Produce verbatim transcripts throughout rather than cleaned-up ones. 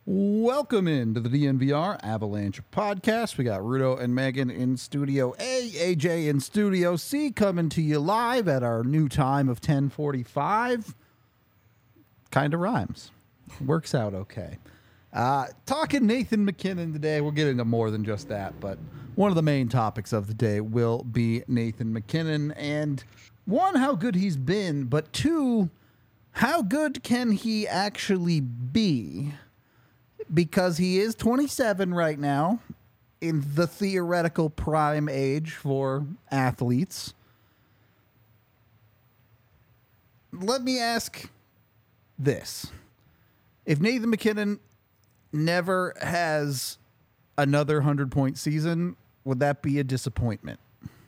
Welcome into the D N V R Avalanche podcast. We got Rudo and Megan in Studio A, A J in Studio C, coming to you live at our new time of ten forty-five. Kind of rhymes. Works out okay. Uh, talking Nathan MacKinnon today. We'll get into more than just that, but one of the main topics of the day will be Nathan MacKinnon. And one, how good he's been, but two, how good can he actually be? Because he is twenty-seven right now, in the theoretical prime age for athletes. Let me ask this. If Nathan MacKinnon never has another hundred-point season, would that be a disappointment?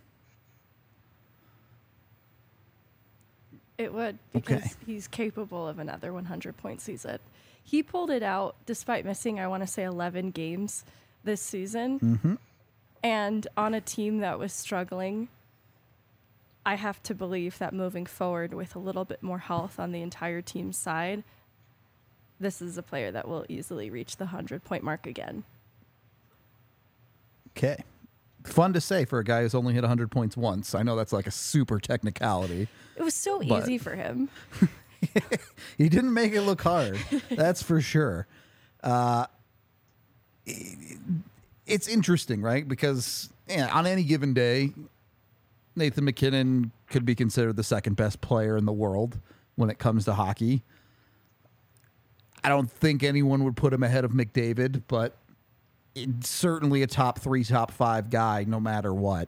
It would, because Okay. he's capable of another hundred-point season. He pulled it out despite missing, I want to say, eleven games this season. Mm-hmm. And on a team that was struggling, I have to believe that moving forward with a little bit more health on the entire team's side, this is a player that will easily reach the hundred-point mark again. Okay. Fun to say for a guy who's only hit one hundred points once. I know that's like a super technicality. It was so But- easy for him. He didn't make it look hard. That's for sure. Uh, it's interesting, right? Because yeah, on any given day, Nathan MacKinnon could be considered the second best player in the world when it comes to hockey. I don't think anyone would put him ahead of McDavid, but it's certainly a top three, top five guy, no matter what.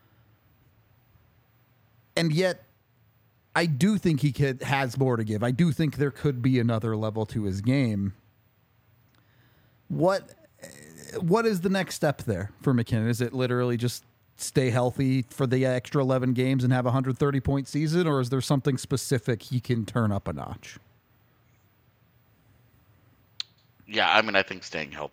And yet, I do think he could, has more to give. I do think there could be another level to his game. What what is the next step there for MacKinnon? Is it literally just stay healthy for the extra eleven games and have a one hundred thirty point season, or is there something specific he can turn up a notch? Yeah, I mean, I think staying healthy.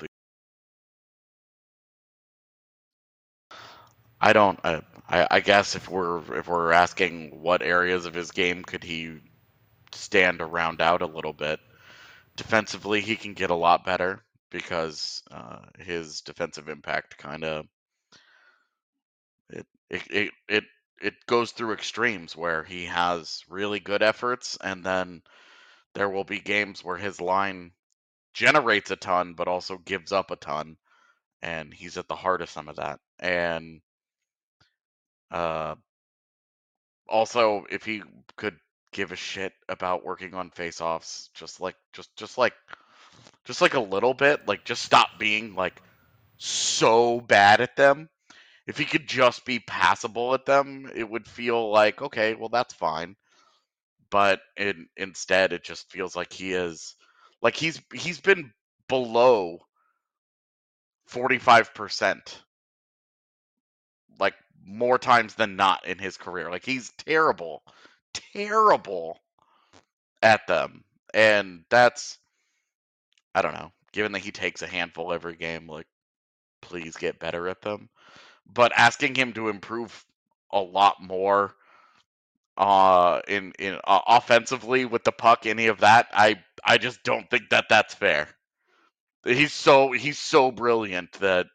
I don't. I, I, I guess if we're if we're asking what areas of his game could he stand to round out a little bit, defensively he can get a lot better because uh, his defensive impact kind of it, it it it it goes through extremes where he has really good efforts and then there will be games where his line generates a ton but also gives up a ton, and he's at the heart of some of that. And uh also, if he could give a shit about working on face-offs, just like just just like just like a little bit, like just stop being like so bad at them. If he could just be passable at them, it would feel like, okay, well that's fine. But in, instead it just feels like he is like he's he's been below forty-five percent like more times than not in his career. Like he's terrible, terrible at them. And that's, I don't know, given that he takes a handful every game, like, please get better at them. But asking him to improve a lot more uh in in uh, offensively with the puck, any of that, I I just don't think that that's fair. He's so he's so brilliant that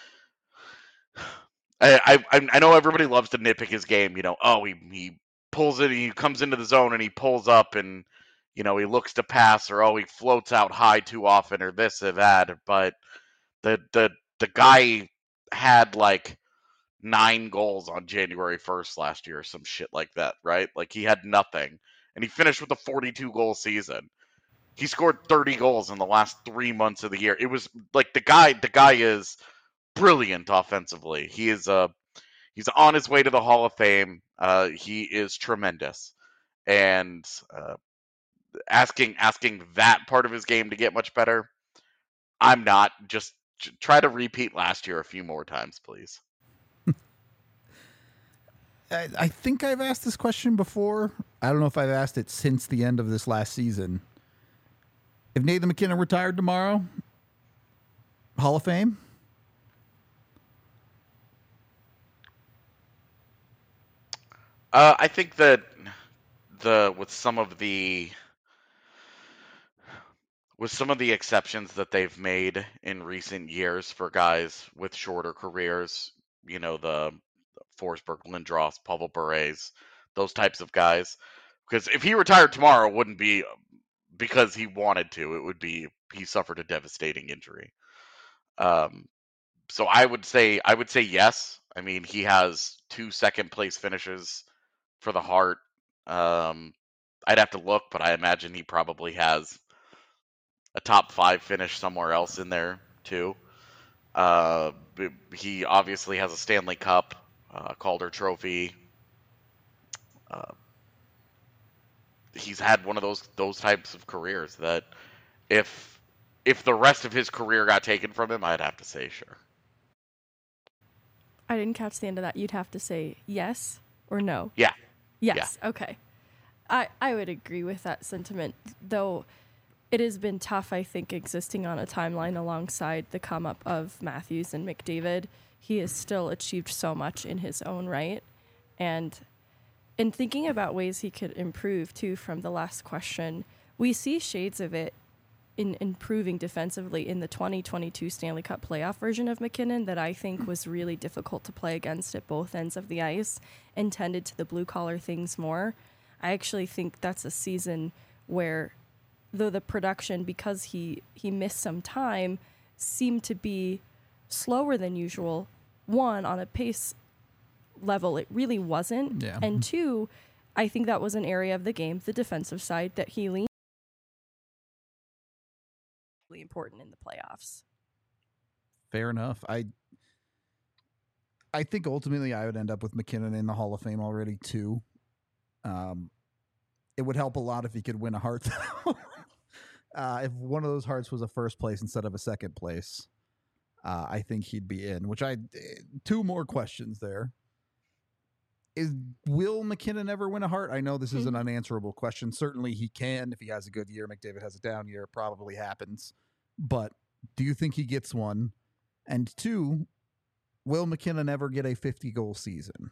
I, I I know everybody loves to nitpick his game. You know, oh he he pulls it, he comes into the zone and he pulls up and you know he looks to pass, or oh he floats out high too often, or this or that. But the the the guy had like nine goals on January first last year, or some shit like that, right? Like he had nothing, and he finished with a forty-two goal season. He scored thirty goals in the last three months of the year. It was like the guy the guy is brilliant offensively. He is a he's on his way to the Hall of Fame. Uh, he is tremendous, and uh, asking asking that part of his game to get much better, I'm not. Just try to repeat last year a few more times, please. I, I think I've asked this question before. I don't know if I've asked it since the end of this last season. If Nathan MacKinnon retired tomorrow, Hall of Fame? Uh, I think that the with some of the with some of the exceptions that they've made in recent years for guys with shorter careers, you know, the Forsberg, Lindros, Pavel Bure's, those types of guys. Because if he retired tomorrow, it wouldn't be because he wanted to. It would be he suffered a devastating injury. Um, so I would say I would say yes. I mean, he has two second place finishes for the Hart. Um, I'd have to look, but I imagine he probably has a top five finish somewhere else in there too. Uh, he obviously has a Stanley Cup, uh, Calder Trophy. Uh, he's had one of those those types of careers that if if the rest of his career got taken from him, I'd have to say sure. I didn't catch the end of that. You'd have to say yes or no. Yeah. Yes. Yeah. Okay. I, I would agree with that sentiment, though it has been tough, I think, existing on a timeline alongside the come up of Matthews and McDavid. He has still achieved so much in his own right. And in thinking about ways he could improve, too, from the last question, we see shades of it in improving defensively in the twenty twenty-two Stanley Cup playoff version of MacKinnon that I think was really difficult to play against at both ends of the ice and tended to the blue-collar things more. I actually think that's a season where, though the production, because he, he missed some time, seemed to be slower than usual, one, on a pace level, it really wasn't. Yeah. And two, I think that was an area of the game, the defensive side, that he leaned really important in the playoffs. Fair enough. I I think ultimately I would end up with MacKinnon in the Hall of Fame already too. Um, it would help a lot if he could win a Hart. uh, if one of those Harts was a first place instead of a second place, uh, I think he'd be in. Which I two more questions there. Is will MacKinnon ever win a Hart? I know this is an unanswerable question. Certainly he can if he has a good year. McDavid has a down year. It probably happens. But do you think he gets one? And two, will MacKinnon ever get a fifty-goal season?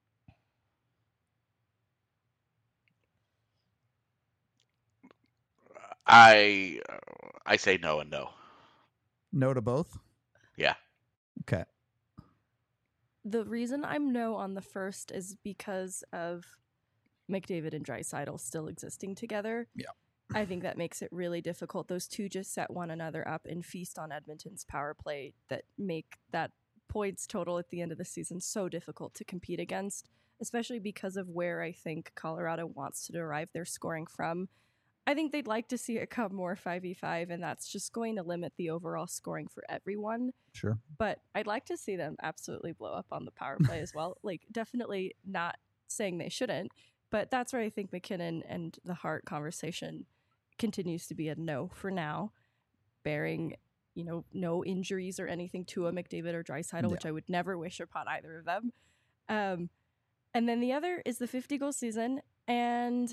I I say no and no. No to both? Yeah. Okay. The reason I'm no on the first is because of McDavid and Draisaitl still existing together. Yeah. I think that makes it really difficult. Those two just set one another up and feast on Edmonton's power play that make that points total at the end of the season so difficult to compete against, especially because of where I think Colorado wants to derive their scoring from. I think they'd like to see it come more five v five, and that's just going to limit the overall scoring for everyone. Sure. But I'd like to see them absolutely blow up on the power play as well. Like, definitely not saying they shouldn't, but that's where I think MacKinnon and the Hart conversation continues to be a no for now, bearing, you know, no injuries or anything to a McDavid or Draisaitl, yeah. which I would never wish upon either of them. Um, and then the other is the fifty-goal season, and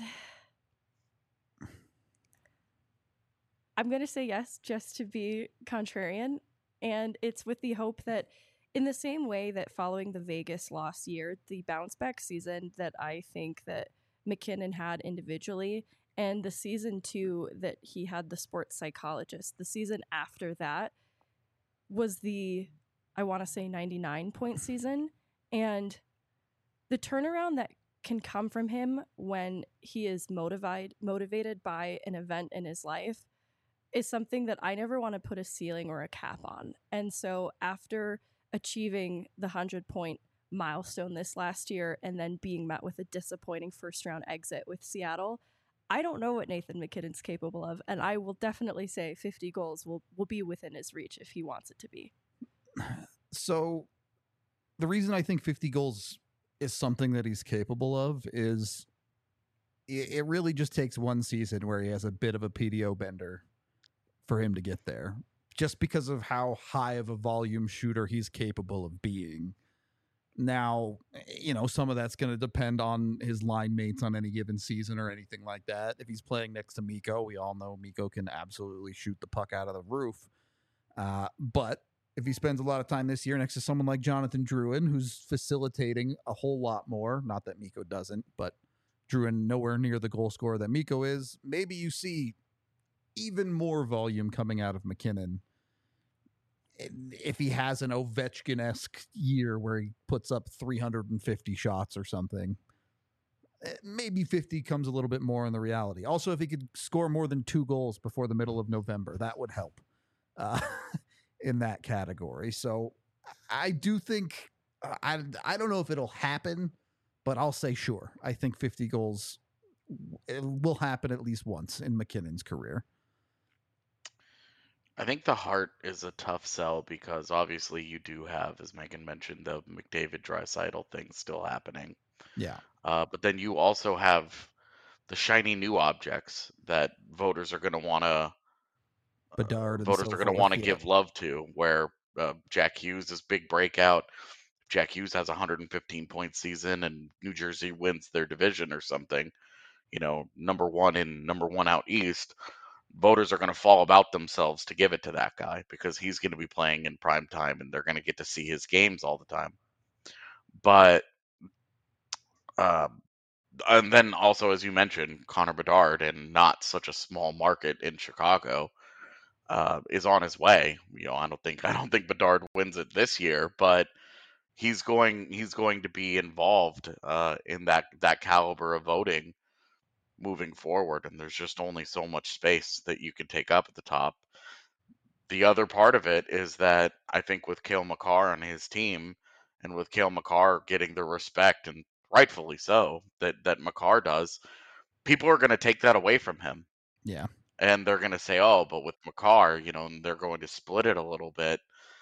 I'm going to say yes just to be contrarian, and it's with the hope that in the same way that following the Vegas loss year, the bounce back season that I think that MacKinnon had individually, and the season two that he had the sports psychologist, the season after that was the, I want to say ninety-nine point season, and the turnaround that can come from him when he is motivated motivated by an event in his life is something that I never want to put a ceiling or a cap on. And so after achieving the one hundred point milestone this last year and then being met with a disappointing first round exit with Seattle, I don't know what Nathan MacKinnon's capable of, and I will definitely say fifty goals will, will be within his reach if he wants it to be. So the reason I think fifty goals is something that he's capable of is it, it really just takes one season where he has a bit of a P D O bender for him to get there, just because of how high of a volume shooter he's capable of being. Now, you know, some of that's going to depend on his line mates on any given season or anything like that. If he's playing next to Mikko, we all know Mikko can absolutely shoot the puck out of the roof. Uh, but if he spends a lot of time this year next to someone like Jonathan Drouin, who's facilitating a whole lot more, not that Mikko doesn't, but Drouin nowhere near the goal scorer that Mikko is, maybe you see even more volume coming out of McKinnon if he has an Ovechkin-esque year where he puts up three hundred fifty shots or something. Maybe fifty comes a little bit more in the reality. Also, if he could score more than two goals before the middle of November, that would help uh, in that category. So I do think, I, I don't know if it'll happen, but I'll say sure. I think fifty goals it will happen at least once in McKinnon's career. I think the Hart is a tough sell because obviously you do have, as Megan mentioned, the McDavid Draisaitl thing still happening. Yeah. Uh, but then you also have the shiny new objects that voters are going to want to Bedard uh, and voters so are going to forth, want to yeah. give love to. Where uh, Jack Hughes, this big breakout, Jack Hughes has a one hundred fifteen point season and New Jersey wins their division or something, you know, number one in number one out east, voters are going to fall about themselves to give it to that guy because he's going to be playing in prime time and they're going to get to see his games all the time. But um, and then also, as you mentioned, Connor Bedard, and not such a small market in Chicago, uh, is on his way. You know, I don't think I don't think Bedard wins it this year, but he's going he's going to be involved uh, in that that caliber of voting moving forward. And there's just only so much space that you can take up at the top. The other part of it is that I think with Cale Makar on his team, and with Cale Makar getting the respect, and rightfully so, that that Makar does, people are going to take that away from him. Yeah. And they're going to say, oh, but with Makar, you know, and they're going to split it a little bit.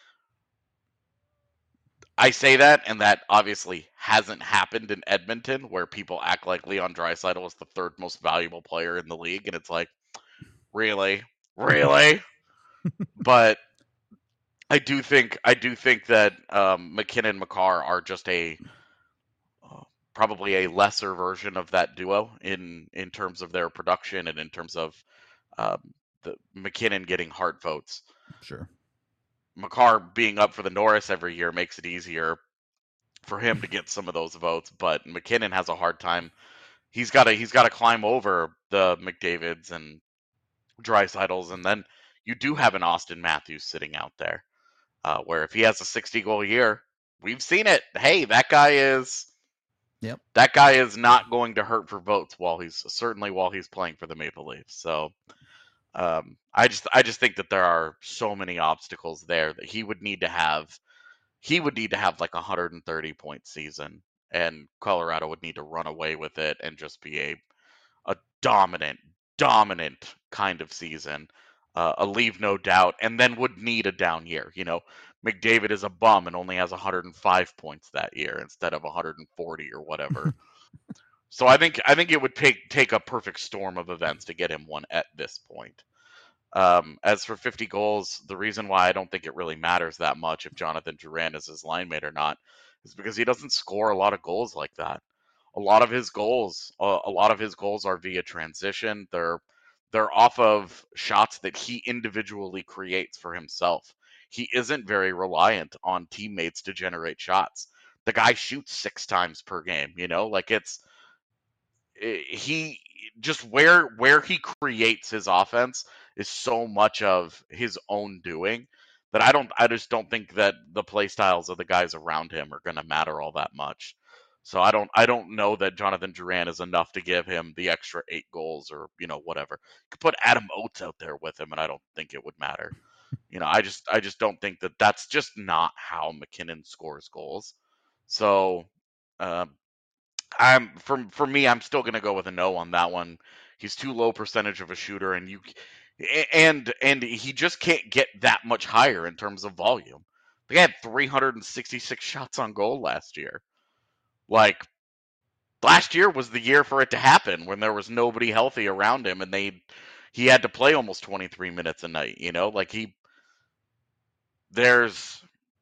I say that, and that obviously hasn't happened in Edmonton, where people act like Leon Draisaitl is the third most valuable player in the league, and it's like, really, really. But I do think I do think that um, McKinnon and Makar are just a uh, probably a lesser version of that duo in in terms of their production and in terms of um, the McKinnon getting Hart votes. Sure. Makar being up for the Norris every year makes it easier for him to get some of those votes, but McKinnon has a hard time. He's got to he's got to climb over the McDavids and Draisaitl's, and then you do have an Austin Matthews sitting out there, uh, where if he has a sixty goal year, we've seen it. Hey, that guy is. Yep. That guy is not going to hurt for votes while he's certainly while he's playing for the Maple Leafs. So. Um, I just I just think that there are so many obstacles there that he would need to have he would need to have like a one hundred thirty point season, and Colorado would need to run away with it and just be a a dominant dominant kind of season, uh, a leave no doubt, and then would need a down year. You know, McDavid is a bum and only has one hundred five points that year instead of one hundred forty or whatever. So I think I think it would take take a perfect storm of events to get him one at this point. Um, as for fifty goals, the reason why I don't think it really matters that much if Jonathan Drouin is his line mate or not is because he doesn't score a lot of goals like that. A lot of his goals, uh, a lot of his goals are via transition. They're they're off of shots that he individually creates for himself. He isn't very reliant on teammates to generate shots. The guy shoots six times per game. You know, like it's he just where where he creates his offense is so much of his own doing that I don't I just don't think that the play styles of the guys around him are going to matter all that much. So I don't I don't know that Jonathan Drouin is enough to give him the extra eight goals or, you know, whatever. You could put Adam Oates out there with him and I don't think it would matter. You know, I just I just don't think that that's just not how McKinnon scores goals. So um I'm for for me, I'm still going to go with a no on that one. He's too low percentage of a shooter, and you and and he just can't get that much higher in terms of volume. They had three hundred sixty-six shots on goal last year. Like last year was the year for it to happen when there was nobody healthy around him, and they he had to play almost twenty-three minutes a night. You know, like he there's.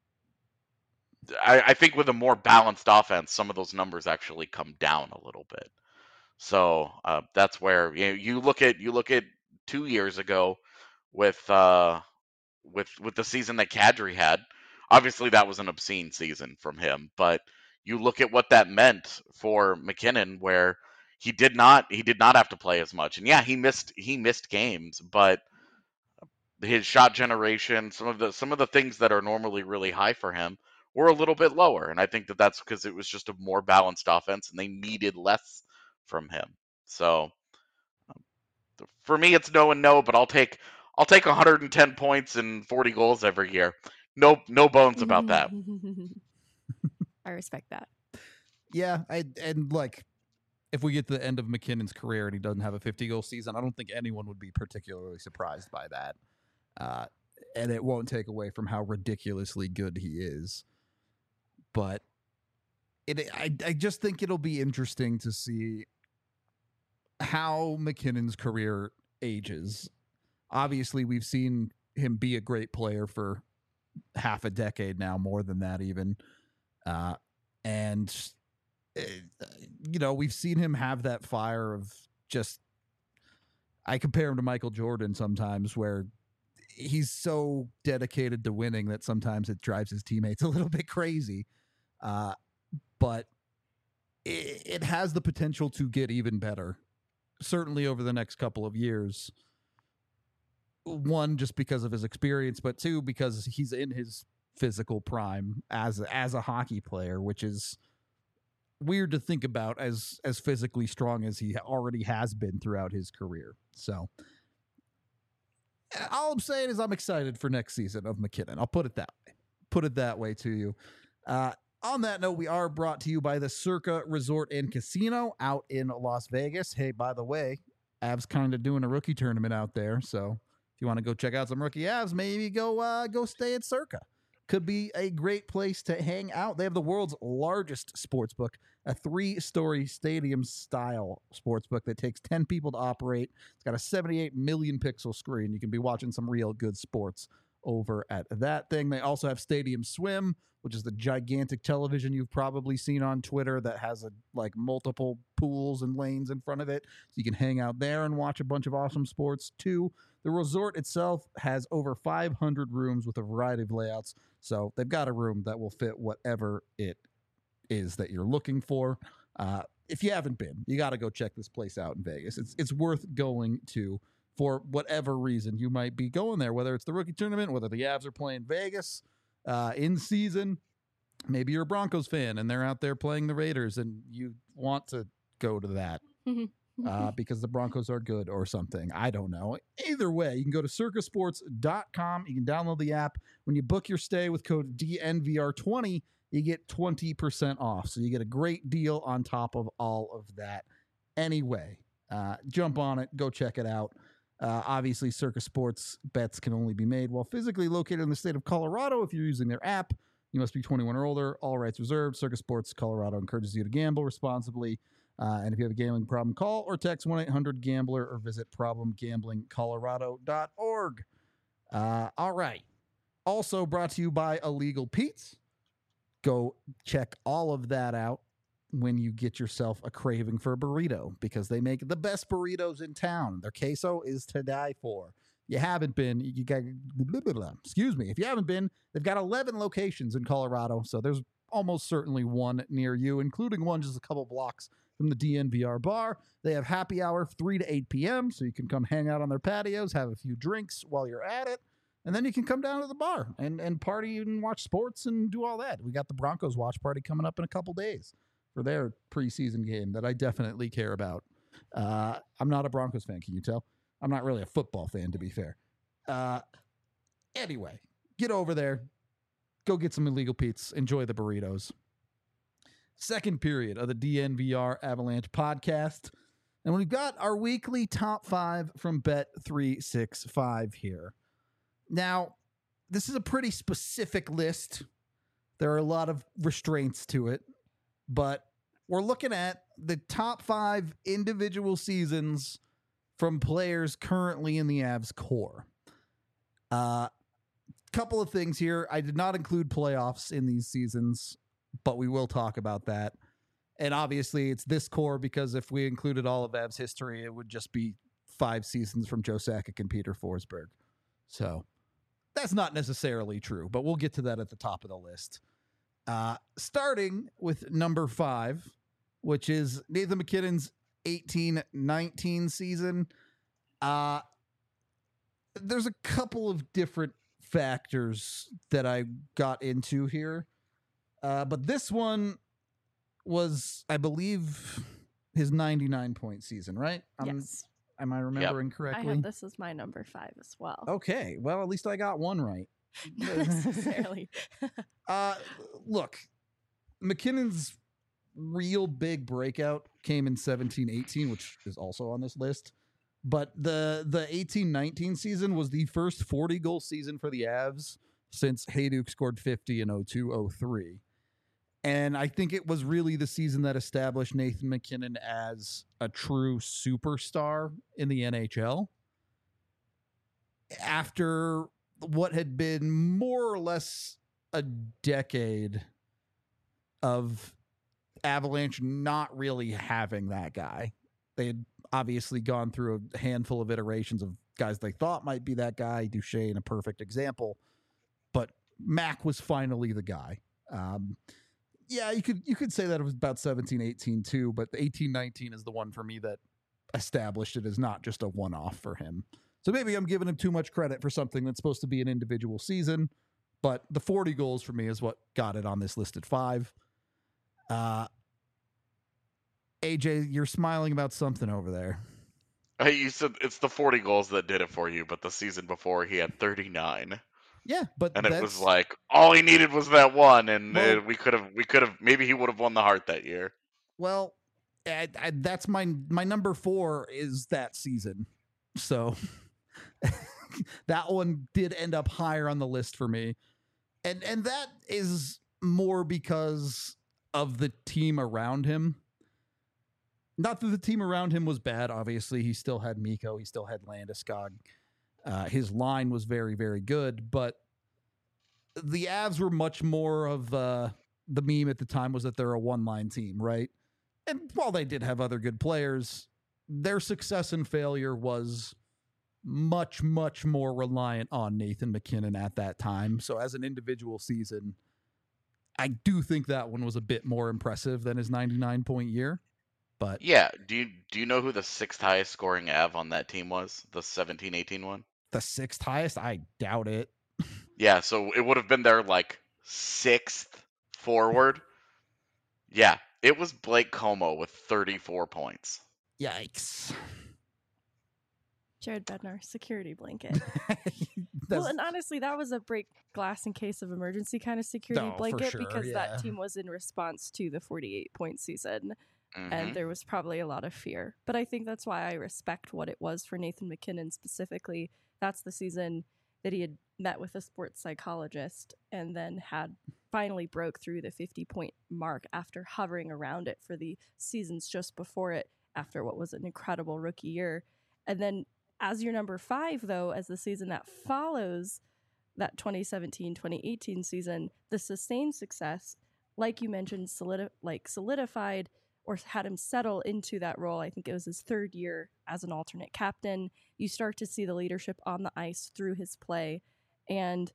I, I think with a more balanced offense, some of those numbers actually come down a little bit. So uh, that's where you know, you look at you look at two years ago with uh, with with the season that Kadri had. Obviously, that was an obscene season from him, but you look at what that meant for McKinnon, where he did not he did not have to play as much. And yeah, he missed he missed games, but his shot generation, some of the some of the things that are normally really high for him were a little bit lower. And I think that that's because it was just a more balanced offense and they needed less from him. So for me, it's no and no, but I'll take I'll take one hundred ten points and forty goals every year. No, no bones about that. I respect that. Yeah, I and like if we get to the end of MacKinnon's career and he doesn't have a fifty goal season, I don't think anyone would be particularly surprised by that. Uh, and it won't take away from how ridiculously good he is. But it, I, I just think it'll be interesting to see how MacKinnon's career ages. Obviously, we've seen him be a great player for half a decade now, more than that even. Uh, and, uh, you know, we've seen him have that fire of just, I compare him to Michael Jordan sometimes, where he's so dedicated to winning that sometimes it drives his teammates a little bit crazy. Uh, but it, it has the potential to get even better, certainly over the next couple of years. One, just because of his experience, but two, because he's in his physical prime as as a hockey player, which is weird to think about as as physically strong as he already has been throughout his career. So all I'm saying is I'm excited for next season of MacKinnon. I'll put it that way. Put it that way to you. Uh, on that note, we are brought to you by the Circa Resort and Casino out in Las Vegas. Hey, by the way, Avs kind of doing a rookie tournament out there, so if you want to go check out some rookie Avs, maybe go uh, go stay at Circa. Could be a great place to hang out. They have the world's largest sports book, a three-story stadium-style sports book that takes ten people to operate. It's got a seventy-eight million pixel screen. You can be watching some real good sports over at that thing. They also have Stadium Swim, which is the gigantic television you've probably seen on Twitter that has a, like multiple pools and lanes in front of it. So you can hang out there and watch a bunch of awesome sports too. The resort itself has over five hundred rooms with a variety of layouts. So they've got a room that will fit whatever it is that you're looking for. Uh, if you haven't been, you got to go check this place out in Vegas. It's it's worth going to for whatever reason you might be going there, whether it's the rookie tournament, whether the Avs are playing Vegas uh, in season. Maybe you're a Broncos fan and they're out there playing the Raiders and you want to go to that uh, because the Broncos are good or something. I don't know. Either way, you can go to circa sports dot com. You can download the app. When you book your stay with code D N V R twenty, you get twenty percent off. So you get a great deal on top of all of that. Anyway, uh, jump on it. Go check it out. Uh, obviously, Circa Sports bets can only be made while physically located in the state of Colorado. If you're using their app, you must be twenty-one or older. All rights reserved. Circa Sports Colorado encourages you to gamble responsibly. Uh, and if you have a gambling problem, call or text one eight hundred gambler or visit problem gambling colorado dot org. Uh, all right. Also brought to you by Illegal Pete's. Go check all of that out when you get yourself a craving for a burrito, because they make the best burritos in town. Their queso is to die for. You haven't been, you got, blah, blah, blah. Excuse me. If you haven't been, they've got eleven locations in Colorado. So there's almost certainly one near you, including one just a couple blocks from the D N V R bar. They have happy hour three to eight p.m. So you can come hang out on their patios, have a few drinks while you're at it. And then you can come down to the bar and, and party and watch sports and do all that. We got the Broncos watch party coming up in a couple days for their preseason game that I definitely care about. Uh, I'm not a Broncos fan, can you tell? I'm not really a football fan, to be fair. Uh, anyway, get over there. Go get some Illegal Pete's. Enjoy the burritos. Second period of the D N V R Avalanche podcast. And we've got our weekly top five from Bet three sixty-five here. Now, this is a pretty specific list. There are a lot of restraints to it, but we're looking at the top five individual seasons from players currently in the Avs core. A uh, couple of things here. I did not include playoffs in these seasons, but we will talk about that. And obviously, it's this core because if we included all of Avs history, it would just be five seasons from Joe Sakic and Peter Forsberg. So that's not necessarily true, but we'll get to that at the top of the list. Uh, starting with number five, which is Nathan MacKinnon's eighteen nineteen season. Uh, there's a couple of different factors that I got into here. Uh, but this one was, I believe, his ninety-nine point season, right? Um, Yes. Am I remembering I correctly? have this as my number five as well. Okay. Well, at least I got one right. Not necessarily. uh, look, McKinnon's real big breakout came in seventeen eighteen, which is also on this list. But the the eighteen nineteen season was the first forty goal season for the Avs since Hayduk scored fifty in oh two oh three. And I think it was really the season that established Nathan MacKinnon as a true superstar in the N H L. After what had been more or less a decade of Avalanche not really having that guy. They had obviously gone through a handful of iterations of guys they thought might be that guy. Duchesne, a perfect example. But Mac was finally the guy. Um, yeah, you could you could say that it was about seventeen eighteen too, but the eighteen nineteen is the one for me that established it as not just a one-off for him. So maybe I'm giving him too much credit for something that's supposed to be an individual season, but the forty goals for me is what got it on this list at five. Uh, A J, you're smiling about something over there. Hey, you said it's the forty goals that did it for you, but the season before he had thirty-nine. Yeah, but and that's, it was like all he needed was that one, and well, uh, we could have, we could have, maybe he would have won the Hart that year. Well, I, I, that's my my number four is that season, so that one did end up higher on the list for me, and and that is more because of the team around him. Not that the team around him was bad. Obviously, he still had Mikko, he still had Landeskog. Uh, his line was very, very good, but the Avs were much more of uh, the meme at the time was that they're a one-line team, right? And while they did have other good players, their success and failure was much, much more reliant on Nathan MacKinnon at that time. So as an individual season, I do think that one was a bit more impressive than his ninety-nine point year. But yeah, do you do you know who the sixth highest scoring Av on that team was? The seventeen eighteen one? The sixth highest? I doubt it. Yeah, so it would have been their like sixth forward. Yeah, it was Blake Como with thirty-four points. Yikes. Jared Bednar, security blanket. Well, and honestly, that was a break glass in case of emergency kind of security No, for blanket sure, because yeah. that team was in response to the forty-eight point season. Mhm. And there was probably a lot of fear. But I think that's why I respect what it was for Nathan MacKinnon specifically. That's the season that he had met with a sports psychologist and then had finally broke through the fifty point mark after hovering around it for the seasons just before it, after what was an incredible rookie year. And then as your number five, though, as the season that follows that twenty seventeen twenty eighteen season, the sustained success, like you mentioned, solidi- like solidified or had him settle into that role. I think it was his third year as an alternate captain. You start to see the leadership on the ice through his play. And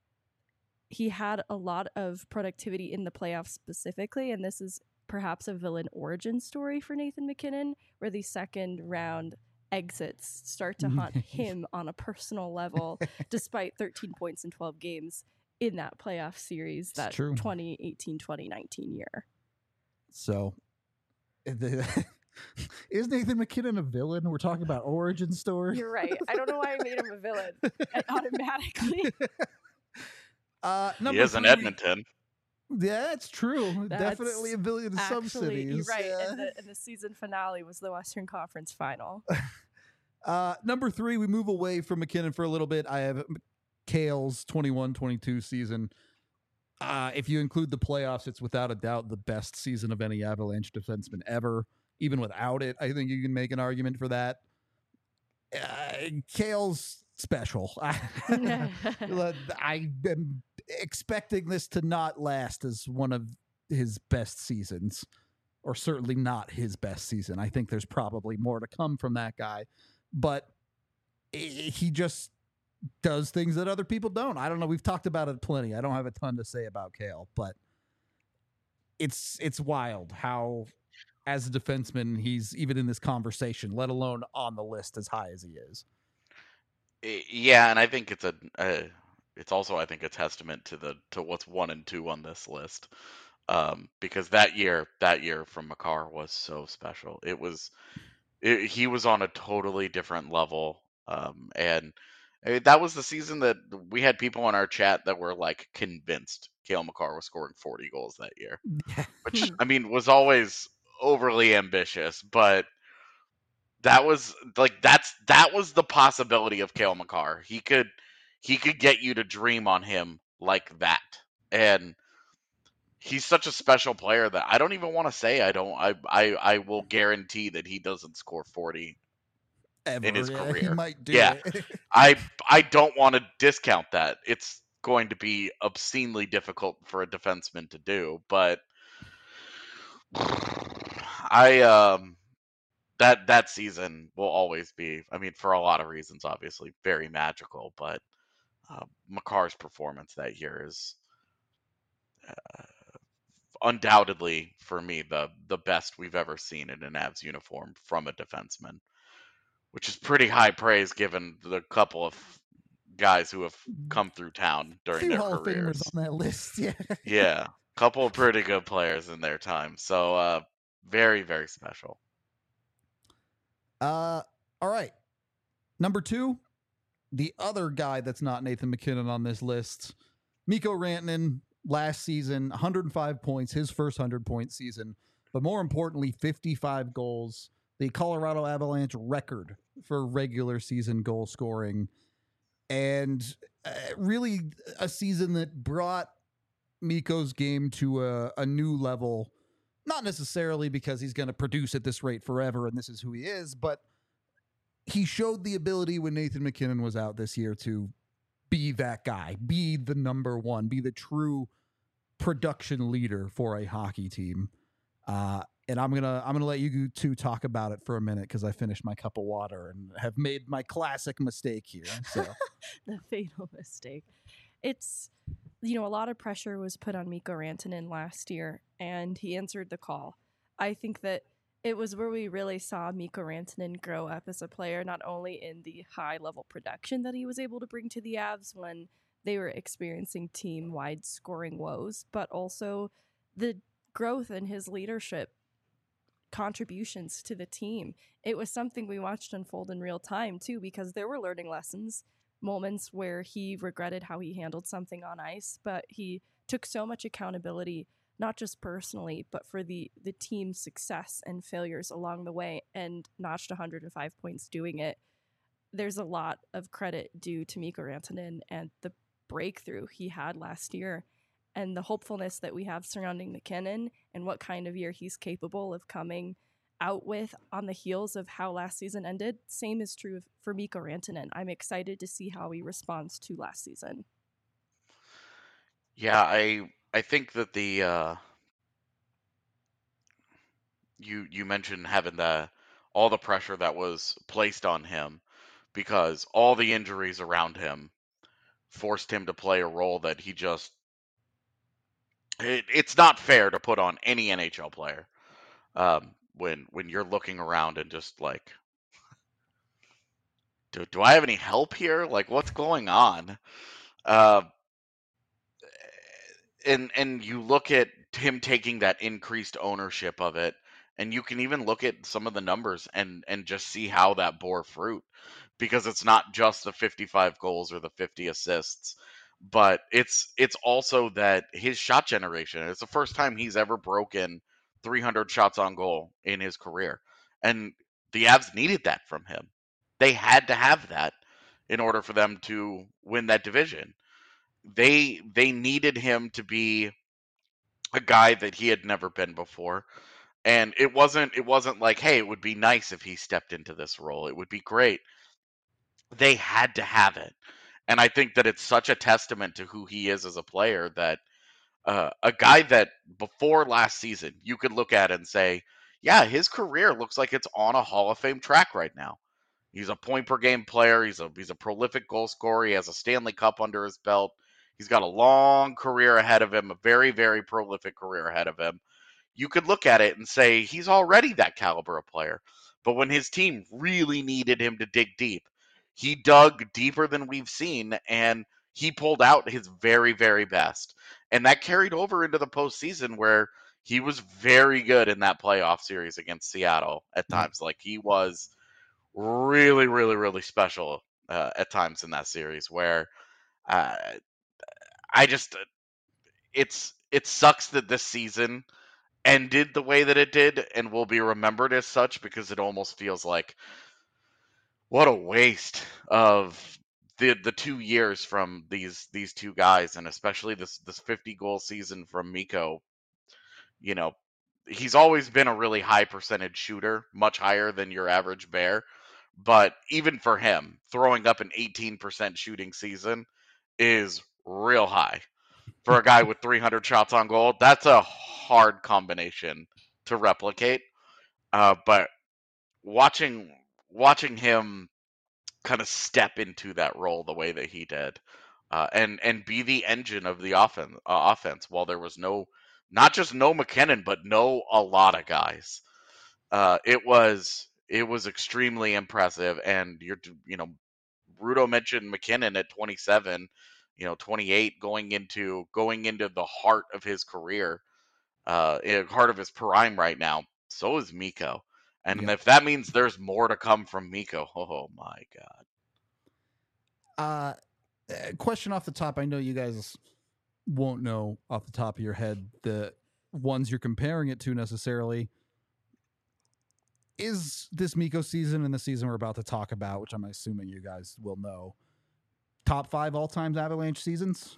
he had a lot of productivity in the playoffs specifically. And this is perhaps a villain origin story for Nathan MacKinnon, where the second round exits start to haunt him on a personal level, despite thirteen points in twelve games in that playoff series, that twenty eighteen twenty nineteen year. So... The, is Nathan MacKinnon a villain? We're talking about origin story. You're right. I don't know why I made him a villain automatically. Uh, he is in Edmonton. Yeah, that's true. That's Definitely a villain in some cities. You're right. Yeah. And, the, and the season finale was the Western Conference Final. uh, number three, we move away from MacKinnon for a little bit. I have Cale's twenty-one twenty-two season. Uh, if you include the playoffs, it's without a doubt the best season of any Avalanche defenseman ever. Even without it, I think you can make an argument for that. Uh, Cale's special. I am expecting this to not last as one of his best seasons, or certainly not his best season. I think there's probably more to come from that guy, but he just does things that other people don't. I don't know. We've talked about it plenty. I don't have a ton to say about Cale, but it's it's wild how as a defenseman, he's even in this conversation, let alone on the list as high as he is. Yeah, and I think it's a, uh, it's also I think a testament to the to what's one and two on this list, um, because that year that year from Makar was so special. It was it, he was on a totally different level, um, and I mean, that was the season that we had people in our chat that were like convinced Cale Makar was scoring forty goals that year, which I mean was always overly ambitious, but that was like that's that was the possibility of Cale Makar. He could he could get you to dream on him like that. And he's such a special player that I don't even want to say I don't I I, I will guarantee that he doesn't score forty Ever. in his Yeah, career. he might do yeah. it. I I don't want to discount that. It's going to be obscenely difficult for a defenseman to do, but I um that that season will always be, I mean, for a lot of reasons, obviously, very magical. But uh, Makar's performance that year is uh, undoubtedly, for me, the the best we've ever seen in an Avs uniform from a defenseman, which is pretty high praise given the couple of guys who have come through town A during few their Hall of Famers careers. on that list. Yeah. Yeah, couple of pretty good players in their time. So uh, very very special. Uh, all right. Number two, the other guy that's not Nathan MacKinnon on this list, Mikko Rantanen. Last season, one hundred five points, his first one hundred point season, but more importantly, fifty-five goals, the Colorado Avalanche record for regular season goal scoring, and uh, really a season that brought Mikko's game to a, a new level. Not necessarily because he's going to produce at this rate forever and this is who he is, but he showed the ability when Nathan MacKinnon was out this year to be that guy, be the number one, be the true production leader for a hockey team. Uh, and I'm gonna I'm gonna let you two talk about it for a minute because I finished my cup of water and have made my classic mistake here. So the fatal mistake. It's, you know, a lot of pressure was put on Mikko Rantanen last year, and he answered the call. I think that it was where we really saw Mikko Rantanen grow up as a player, not only in the high-level production that he was able to bring to the Avs when they were experiencing team-wide scoring woes, but also the growth in his leadership contributions to the team. It was something we watched unfold in real time, too, because there were learning lessons, moments where he regretted how he handled something on ice, but he took so much accountability, not just personally, but for the, the team's success and failures along the way, and notched one hundred five points doing it. There's a lot of credit due to Mikko Rantanen and the breakthrough he had last year, and the hopefulness that we have surrounding MacKinnon and what kind of year he's capable of coming out with on the heels of how last season ended. Same is true for Mikko Rantanen. I'm excited to see how he responds to last season. Yeah, I I think that the uh, you you mentioned having the all the pressure that was placed on him because all the injuries around him forced him to play a role that he just it, it's not fair to put on any N H L player um, when when you're looking around and just like do, do I have any help here? Like what's going on? Uh, and and you look at him taking that increased ownership of it, and you can even look at some of the numbers and and just see how that bore fruit, because it's not just the fifty-five goals or the fifty assists, but it's it's also that his shot generation. It's the first time he's ever broken three hundred shots on goal in his career, and the Avs needed that from him. They had to have that in order for them to win that division. They they needed him to be a guy that he had never been before. And it wasn't it wasn't like, hey, it would be nice if he stepped into this role. It would be great. They had to have it. And I think that it's such a testament to who he is as a player that uh, a guy that before last season you could look at and say, yeah, his career looks like it's on a Hall of Fame track right now. He's a point per game player. He's a he's a prolific goal scorer. He has a Stanley Cup under his belt. He's got a long career ahead of him, a very, very prolific career ahead of him. you could look at it and say he's already that caliber of player. But when his team really needed him to dig deep, he dug deeper than we've seen, and he pulled out his very, very best. And that carried over into the postseason, where he was very good in that playoff series against Seattle at times. Yep. Like, he was really, really, really special uh, at times in that series, where uh, I just, it's, it sucks that this season ended the way that it did and will be remembered as such, because it almost feels like, what a waste of the the two years from these these two guys, and especially this this fifty goal season from Mikko. You know, he's always been a really high percentage shooter, much higher than your average Bear. But even for him, throwing up an eighteen percent shooting season is real high. For a guy with three hundred shots on goal, that's a hard combination to replicate. Uh, but watching watching him kind of step into that role the way that he did, uh, and and be the engine of the offense, uh, offense while there was no, not just no MacKinnon, but no a lot of guys. Uh, it was it was extremely impressive, and you're you know, Rudo mentioned MacKinnon at twenty-seven, you know, twenty-eight, going into going into the heart of his career, uh, heart of his prime right now. So is Mikko. And yep. If that means there's more to come from Mikko, oh my God. Uh, question off the top. I know you guys won't know off the top of your head the ones you're comparing it to necessarily. Is this Mikko season and the season we're about to talk about, which I'm assuming you guys will know, top five all-time Avalanche seasons?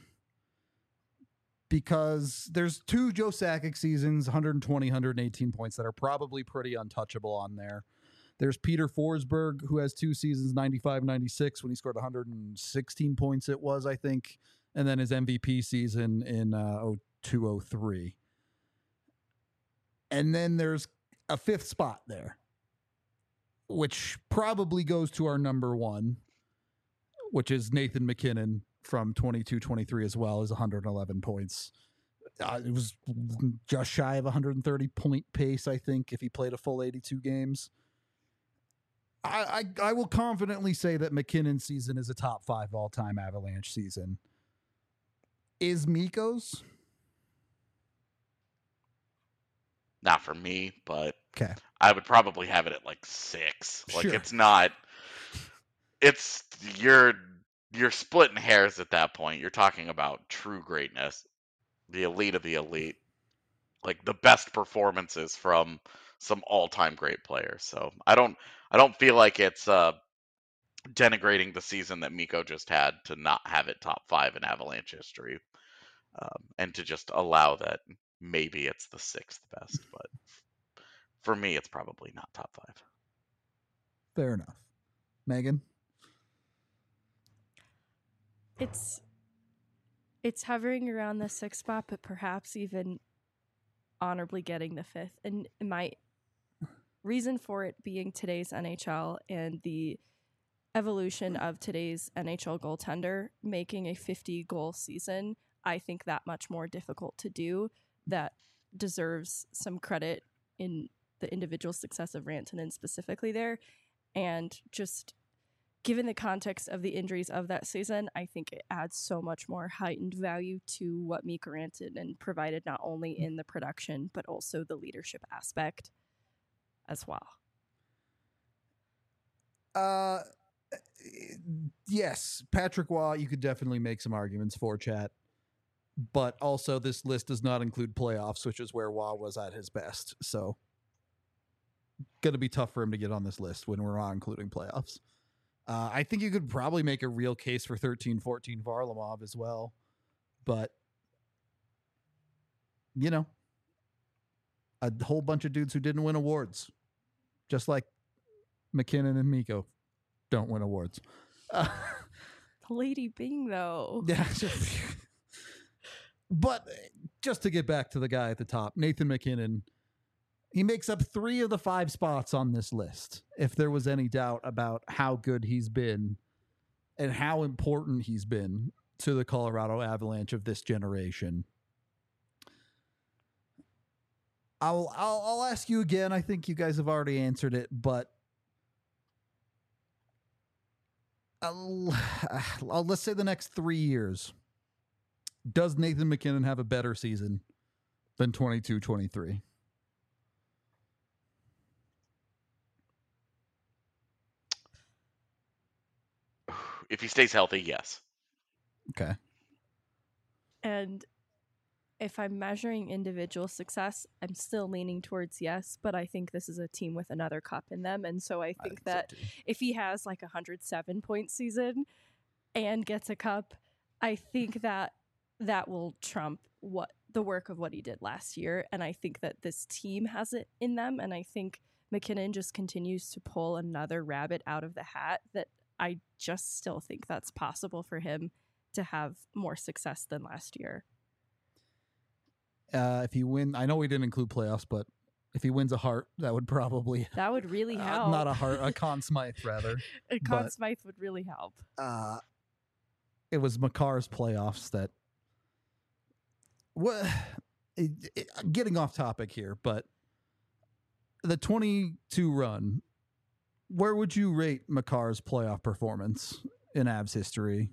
Because there's two Joe Sakic seasons, one twenty, one eighteen points, that are probably pretty untouchable on there. There's Peter Forsberg, who has two seasons, ninety-five ninety-six, when he scored one hundred sixteen points, it was, I think. And then his M V P season in uh, oh two oh three. And then there's a fifth spot there, which probably goes to our number one, which is Nathan MacKinnon from twenty-two twenty-three as well, is one hundred eleven points. Uh, it was just shy of one hundred thirty point pace, I think, if he played a full eighty-two games. I, I, I will confidently say that MacKinnon's season is a top five all-time Avalanche season. Is Mikko's? Not for me, but okay. I would probably have it at like six. Like, sure. It's not, it's, you're, you're splitting hairs at that point. You're talking about true greatness, the elite of the elite, like the best performances from some all-time great players. So I don't, I don't feel like it's uh, denigrating the season that Mikko just had to not have it top five in Avalanche history, um, and to just allow that maybe it's the sixth best. But for me, it's probably not top five. Fair enough. Megan? It's it's hovering around the sixth spot, but perhaps even honorably getting the fifth. And my reason for it being today's N H L and the evolution of today's N H L goaltender making a fifty goal season, I think that much more difficult to do. That deserves some credit in the individual success of Rantanen specifically there. And just given the context of the injuries of that season, I think it adds so much more heightened value to what Mikko Rantanen provided, not only in the production, but also the leadership aspect as well. Uh, yes, Patrick Waugh, you could definitely make some arguments for, chat. But also, this list does not include playoffs, which is where Waugh was at his best. So, going to be tough for him to get on this list when we're not including playoffs. Uh, I think you could probably make a real case for thirteen fourteen Varlamov as well. But, you know, a whole bunch of dudes who didn't win awards, just like MacKinnon and Mikko don't win awards. Uh, Lady Bing, though. Yeah. But just to get back to the guy at the top, Nathan MacKinnon, he makes up three of the five spots on this list. If there was any doubt about how good he's been and how important he's been to the Colorado Avalanche of this generation. I'll, I'll I'll ask you again. I think you guys have already answered it, but I'll, I'll, let's say the next three years. Does Nathan MacKinnon have a better season than twenty-two twenty-three? If he stays healthy, yes. Okay. And if I'm measuring individual success, I'm still leaning towards yes, but I think this is a team with another cup in them. And so I think, I think that so if he has like a one hundred seven point season and gets a cup, I think that that will trump what the work of what he did last year. And I think that this team has it in them. And I think MacKinnon just continues to pull another rabbit out of the hat that I just still think that's possible for him to have more success than last year. Uh, if he win, I know we didn't include playoffs, but if he wins a Hart, that would probably That would really uh, help. not a Hart, a Conn Smythe rather. A Conn but, Smythe would really help. Uh, it was Makar's playoffs that. What? It, it, getting off topic here, but the twenty-two run. Where would you rate Makar's playoff performance in Avs history?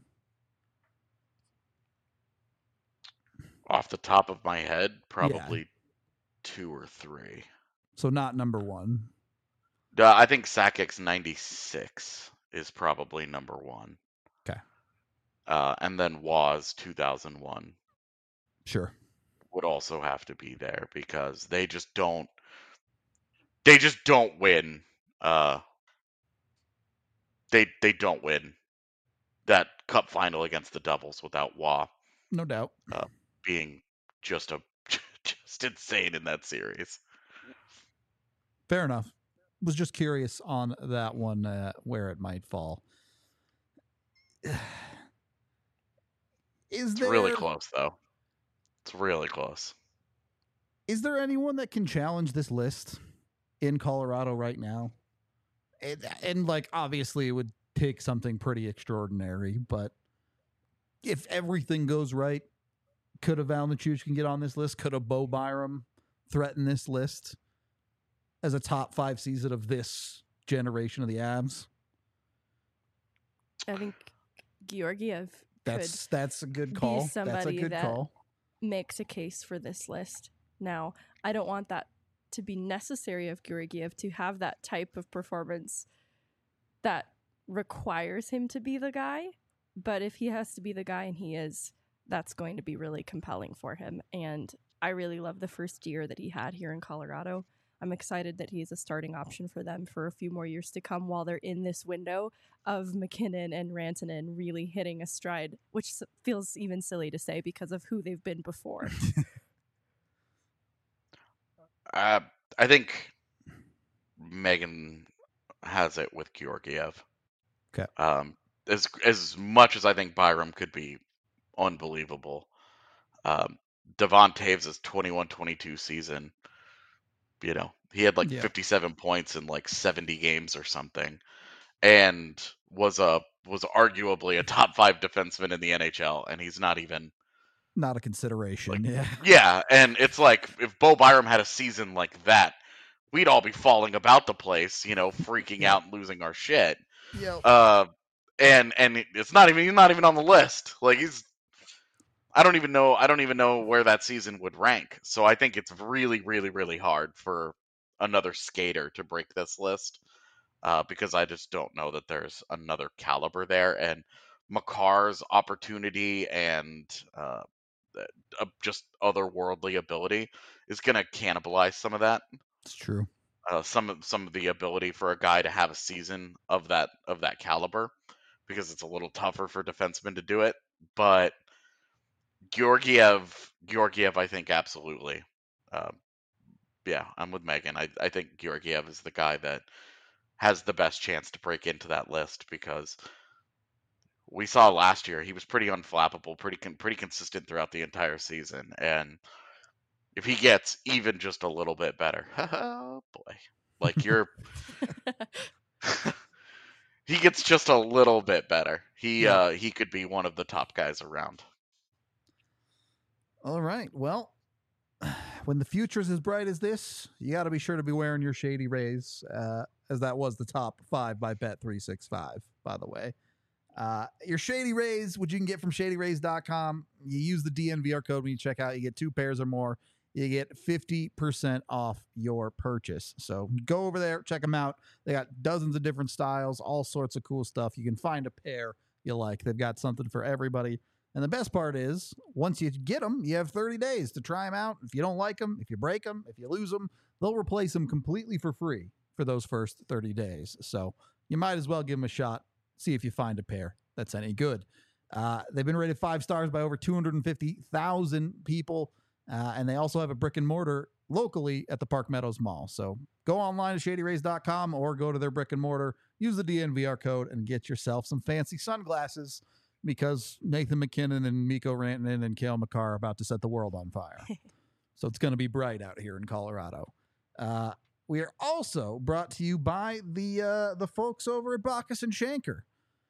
Off the top of my head, probably yeah. two or three. So not number one. Uh, I think Sakic's ninety-six is probably number one. Okay. Uh, and then Waz two thousand one. Sure. Would also have to be there because they just don't. They just don't win. Uh, they they don't win that cup final against the Devils without Wah. No doubt. Uh, being just a just insane in that series. Fair enough. Was just curious on that one uh, where it might fall. Is it's there really close though? It's really close. Is there anyone that can challenge this list in Colorado right now? And, and like obviously it would take something pretty extraordinary, but if everything goes right, could a Val Nichushkin get on this list? Could a Bo Byram threaten this list as a top five season of this generation of the Avs? I think Georgiev that's could that's a good call. Be somebody that's a good that call. Makes a case for this list. Now, I don't want that to be necessary of Georgiev to have that type of performance that requires him to be the guy. But if he has to be the guy, and he is, that's going to be really compelling for him. And I really love the first year that he had here in Colorado. I'm excited that he's a starting option for them for a few more years to come while they're in this window of MacKinnon and Rantanen really hitting a stride, which feels even silly to say because of who they've been before. uh, I think Megan has it with Georgiev. Okay. Um, as as much as I think Byram could be unbelievable, um, Devon Toews' twenty-one twenty-two season, you know, he had like yeah. fifty-seven points in like seventy games or something, and was a was arguably a top five defenseman in the N H L, and he's not even not a consideration. like, yeah, yeah, and it's like if Bo Byram had a season like that, we'd all be falling about the place, you know, freaking yeah. out and losing our shit. Yep. Uh, and and it's not even he's not even on the list. Like he's, I don't even know I don't even know where that season would rank. So I think it's really really really hard for another skater to break this list, uh, because I just don't know that there's another caliber there. And Makar's opportunity and uh, uh, just otherworldly ability is going to cannibalize some of that. It's true. Uh, some of some of the ability for a guy to have a season of that of that caliber, because it's a little tougher for defensemen to do it. But Georgiev, Georgiev, I think absolutely. Uh, yeah, I'm with Megan. I I think Georgiev is the guy that has the best chance to break into that list, because we saw last year he was pretty unflappable, pretty con- pretty consistent throughout the entire season, and if he gets even just a little bit better, oh boy, like you're, he gets just a little bit better. He yeah. uh, he could be one of the top guys around. All right. Well, when the future's as bright as this, you got to be sure to be wearing your Shady Rays, uh, as that was the top five by Bet three sixty-five, by the way. Uh, your Shady Rays, which you can get from shady rays dot com. You use the D N V R code when you check out. You get two pairs or more. You get fifty percent off your purchase. So go over there, check them out. They got dozens of different styles, all sorts of cool stuff. You can find a pair you like. They've got something for everybody. And the best part is, once you get them, you have thirty days to try them out. If you don't like them, if you break them, if you lose them, they'll replace them completely for free for those first thirty days. So you might as well give them a shot. See if you find a pair that's any good. Uh, they've been rated five stars by over two hundred fifty thousand people. Uh, and they also have a brick and mortar locally at the Park Meadows Mall. So go online to shady rays dot com or go to their brick and mortar, use the D N V R code, and get yourself some fancy sunglasses, because Nathan McKinnon and Mikko Rantanen and Cale Makar are about to set the world on fire. So it's going to be bright out here in Colorado. Uh, we are also brought to you by the uh, the folks over at Bacchus and Shanker.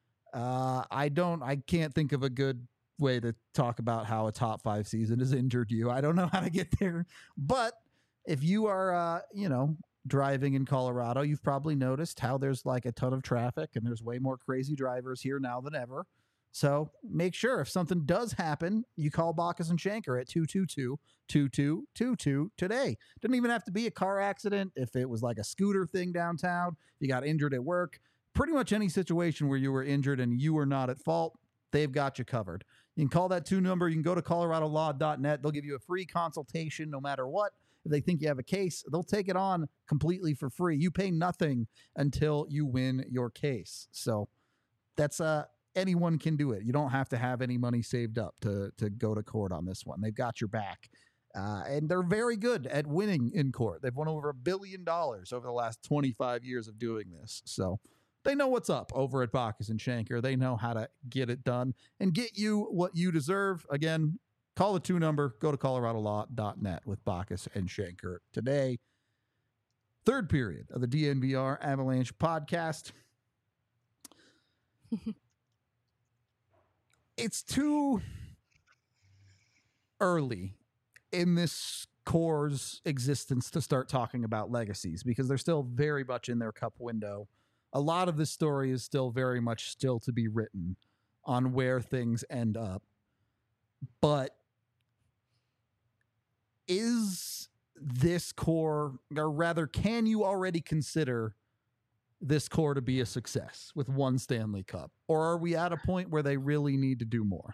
Uh, I don't, I can't think of a good way to talk about how a top five season has injured you. I don't know how to get there, but if you are, uh, you know, driving in Colorado, you've probably noticed how there's like a ton of traffic and there's way more crazy drivers here now than ever. So make sure if something does happen, you call Bacchus and Shanker at two two two, two two two two today. Doesn't even have to be a car accident. If it was like a scooter thing downtown, you got injured at work, pretty much any situation where you were injured and you were not at fault, they've got you covered. You can call that two number. You can go to colorado law dot net. They'll give you a free consultation no matter what. If they think you have a case, they'll take it on completely for free. You pay nothing until you win your case. So that's uh anyone can do it. You don't have to have any money saved up to to go to court on this one. They've got your back. Uh, and they're very good at winning in court. They've won over a billion dollars over the last twenty-five years of doing this. So they know what's up over at Bacchus and Shanker. They know how to get it done and get you what you deserve. Again, call the two number, go to colorado law dot net with Bacchus and Shanker today. Third period of the D N V R Avalanche podcast. It's too early in this core's existence to start talking about legacies because they're still very much in their cup window. A lot of this story is still very much still to be written on where things end up. But is this core, or rather, can you already consider this core to be a success with one Stanley Cup? Or are we at a point where they really need to do more?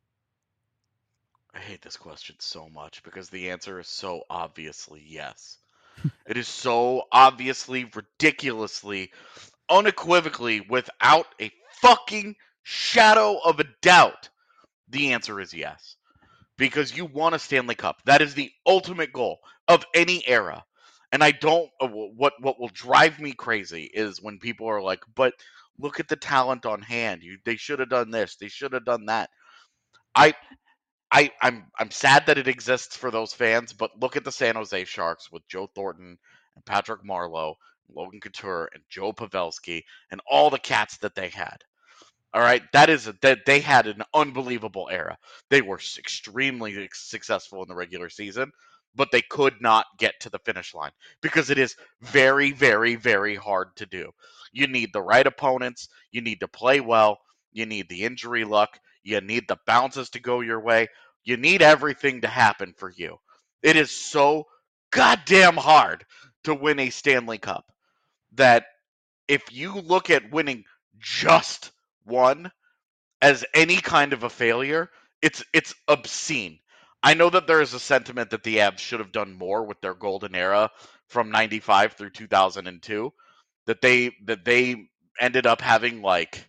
I hate this question so much because the answer is so obviously yes. It is so obviously, ridiculously, unequivocally, without a fucking shadow of a doubt, the answer is yes. Because you want a Stanley Cup. That is the ultimate goal of any era. And I don't, uh, what what will drive me crazy is when people are like, but look at the talent on hand. You, they should have done this. They should have done that. I, I, I'm I'm sad that it exists for those fans, but look at the San Jose Sharks with Joe Thornton and Patrick Marleau, Logan Couture and Joe Pavelski and all the cats that they had. All right, that is a, that they had an unbelievable era. They were extremely successful in the regular season, but they could not get to the finish line because it is very, very, very hard to do. You need the right opponents. You need to play well. You need the injury luck. You need the bounces to go your way. You need everything to happen for you. It is so goddamn hard to win a Stanley Cup that if you look at winning just one as any kind of a failure, it's it's obscene. I know that there is a sentiment that the Avs should have done more with their golden era from ninety-five through two thousand two, that they that they ended up having like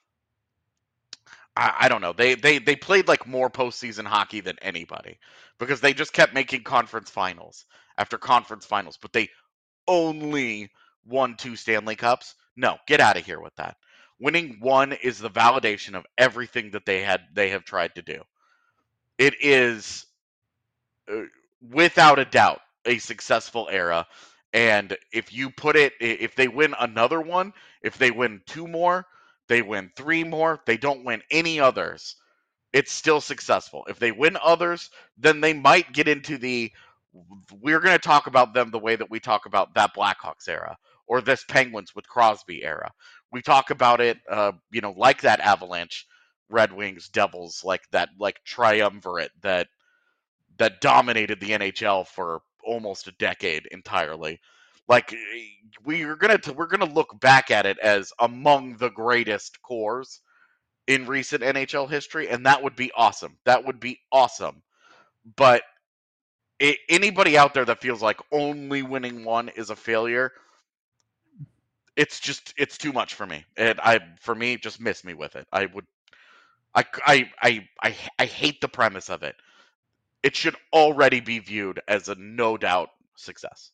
I, I don't know. They, they they played like more postseason hockey than anybody because they just kept making conference finals after conference finals, but they only won two Stanley Cups. No, get out of here with that. Winning one is the validation of everything that they had they have tried to do. It is uh, without a doubt a successful era, and if you put it if they win another one, if they win two more, they win three more, they don't win any others, it's still successful. If they win others, then they might get into the we're going to talk about them the way that we talk about that Blackhawks era or this Penguins with Crosby era. We talk about it, uh, you know, like that Avalanche, Red Wings, Devils, like that, like triumvirate that that dominated the N H L for almost a decade entirely. Like we're gonna we're gonna look back at it as among the greatest cores in recent N H L history, and that would be awesome. That would be awesome. But it, anybody out there that feels like only winning one is a failure, it's just it's too much for me. And I for me, just miss me with it. I would I I I I, I hate the premise of it. It should already be viewed as a no doubt success.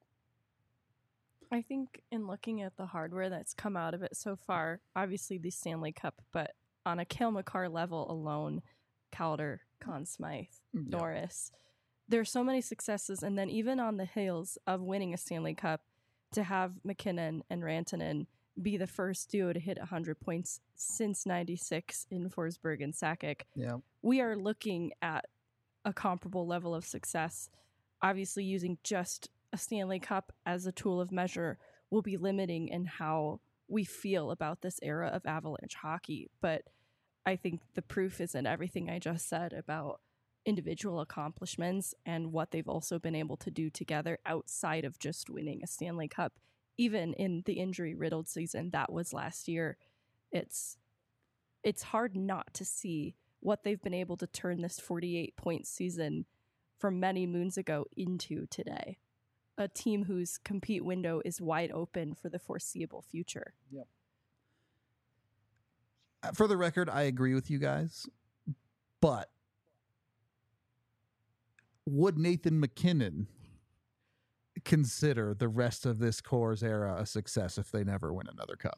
I think in looking at the hardware that's come out of it so far, obviously the Stanley Cup, but on a Cale Makar level alone, Calder, Conn Smythe, Yeah. Norris, there's so many successes. And then even on the heels of winning a Stanley Cup, to have McKinnon and Rantanen be the first duo to hit one hundred points since ninety-six in Forsberg and Sakic, Yeah. we are looking at a comparable level of success. Obviously, using just a Stanley Cup as a tool of measure will be limiting in how we feel about this era of Avalanche hockey. But I think the proof is in everything I just said about individual accomplishments and what they've also been able to do together outside of just winning a Stanley Cup. Even in the injury-riddled season that was last year, it's it's hard not to see what they've been able to turn this forty-eight point season from many moons ago into today. A team whose compete window is wide open for the foreseeable future. Yep. For the record, I agree with you guys, but would Nathan MacKinnon consider the rest of this Core's era a success if they never win another cup?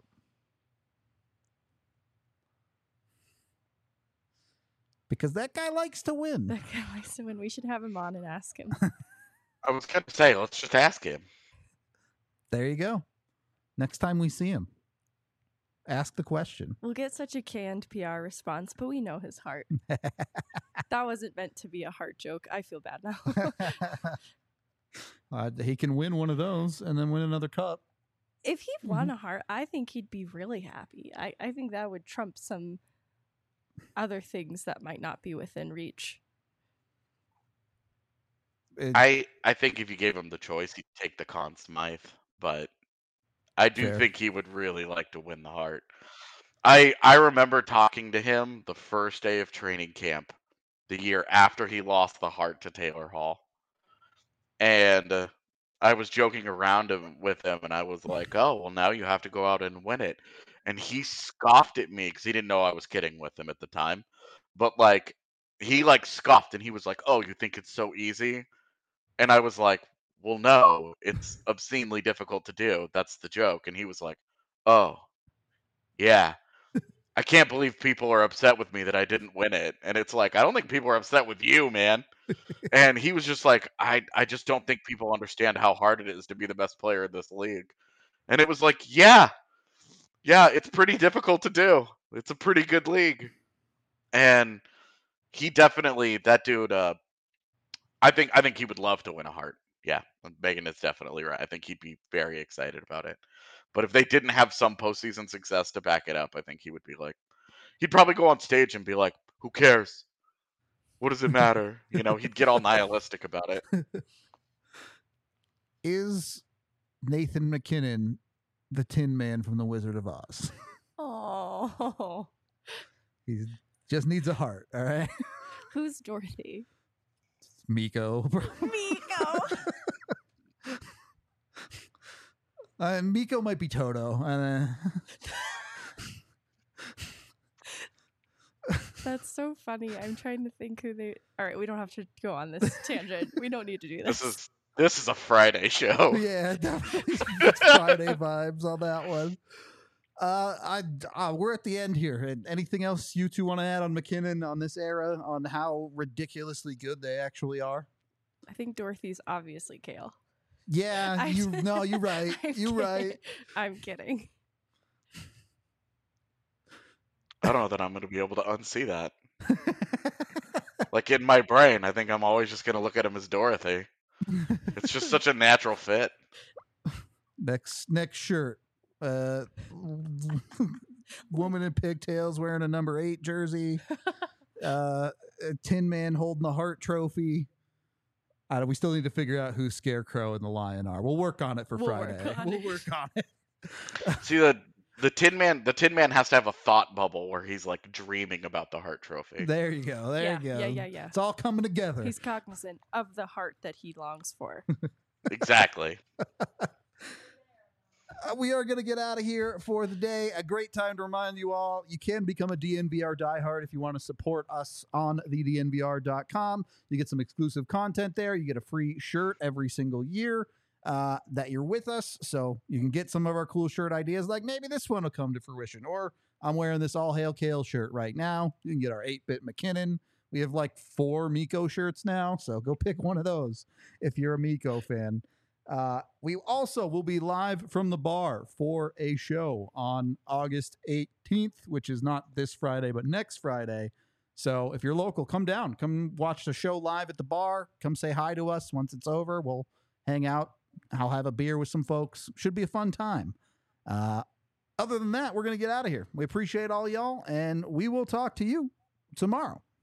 Because that guy likes to win. That guy likes to win. We should have him on and ask him. I was going to say, let's just ask him. There you go. Next time we see him, ask the question. We'll get such a canned P R response, but we know his heart. That wasn't meant to be a heart joke. I feel bad now. uh, he can win one of those and then win another cup. If he won a heart, I think he'd be really happy. I, I think that would trump some other things that might not be within reach. It, I I think if you gave him the choice, he'd take the Conn Smythe, but I do Fair. think he would really like to win the Hart. I I remember talking to him the first day of training camp, the year after he lost the Hart to Taylor Hall, and uh, I was joking around him, with him, and I was like, "Oh, well, now you have to go out and win it," and he scoffed at me because he didn't know I was kidding with him at the time, but like he like scoffed and he was like, "Oh, you think it's so easy?" And I was like, well, no, it's obscenely difficult to do. That's the joke. And he was like, oh, yeah. I can't believe people are upset with me that I didn't win it. And it's like, I don't think people are upset with you, man. And he was just like, I, I just don't think people understand how hard it is to be the best player in this league. And it was like, yeah, yeah, it's pretty difficult to do. It's a pretty good league. And he definitely, that dude, uh, I think I think he would love to win a Hart. Yeah, Megan is definitely right. I think he'd be very excited about it. But if they didn't have some postseason success to back it up, I think he would be like, he'd probably go on stage and be like, "Who cares? What does it matter?" You know, he'd get all nihilistic about it. Is Nathan MacKinnon the Tin Man from The Wizard of Oz? Oh, He just needs a heart, all right? who's Dorothy? Miko. Miko. uh, Miko might be Toto. Uh, That's so funny. I'm trying to think who they. All right, we don't have to go on this tangent. We don't need to do this. This is this is a Friday show. yeah, definitely it's Friday vibes on that one. Uh, I uh, we're at the end here. And anything else you two want to add on MacKinnon on this era, on how ridiculously good they actually are? I think Dorothy's obviously Cale. Yeah, I- you no, you're right. I'm You're kidding. right. I'm kidding. I don't know that I'm going to be able to unsee that. Like in my brain, I think I'm always just going to look at him as Dorothy. It's just such a natural fit. Next next shirt. Uh, woman in pigtails wearing a number eight jersey. Uh, a Tin Man holding the Hart Trophy. Uh, we still need to figure out who Scarecrow and the Lion are. We'll work on it for We'll Friday. work on we'll it. work on it. See the the Tin Man. The Tin Man has to have a thought bubble where he's like dreaming about the Hart Trophy. There you go. There Yeah, you go. yeah, yeah, yeah. It's all coming together. He's cognizant of the heart that he longs for. Exactly. Uh, we are going to get out of here for the day. A great time to remind you all, you can become a D N V R diehard if you want to support us on the D N V R dot com. You get some exclusive content there. You get a free shirt every single year uh, that you're with us. So you can get some of our cool shirt ideas, like maybe this one will come to fruition. Or I'm wearing this All Hail Kale shirt right now. You can get our eight-bit McKinnon. We have like four Miko shirts now, so go pick one of those if you're a Miko fan. Uh, we also will be live from the bar for a show on August eighteenth, which is not this Friday, but next Friday. So if you're local, come down, come watch the show live at the bar. Come say hi to us. Once it's over, we'll hang out. I'll have a beer with some folks. Should be a fun time. Uh, other than that, we're going to get out of here. We appreciate all y'all, and we will talk to you tomorrow.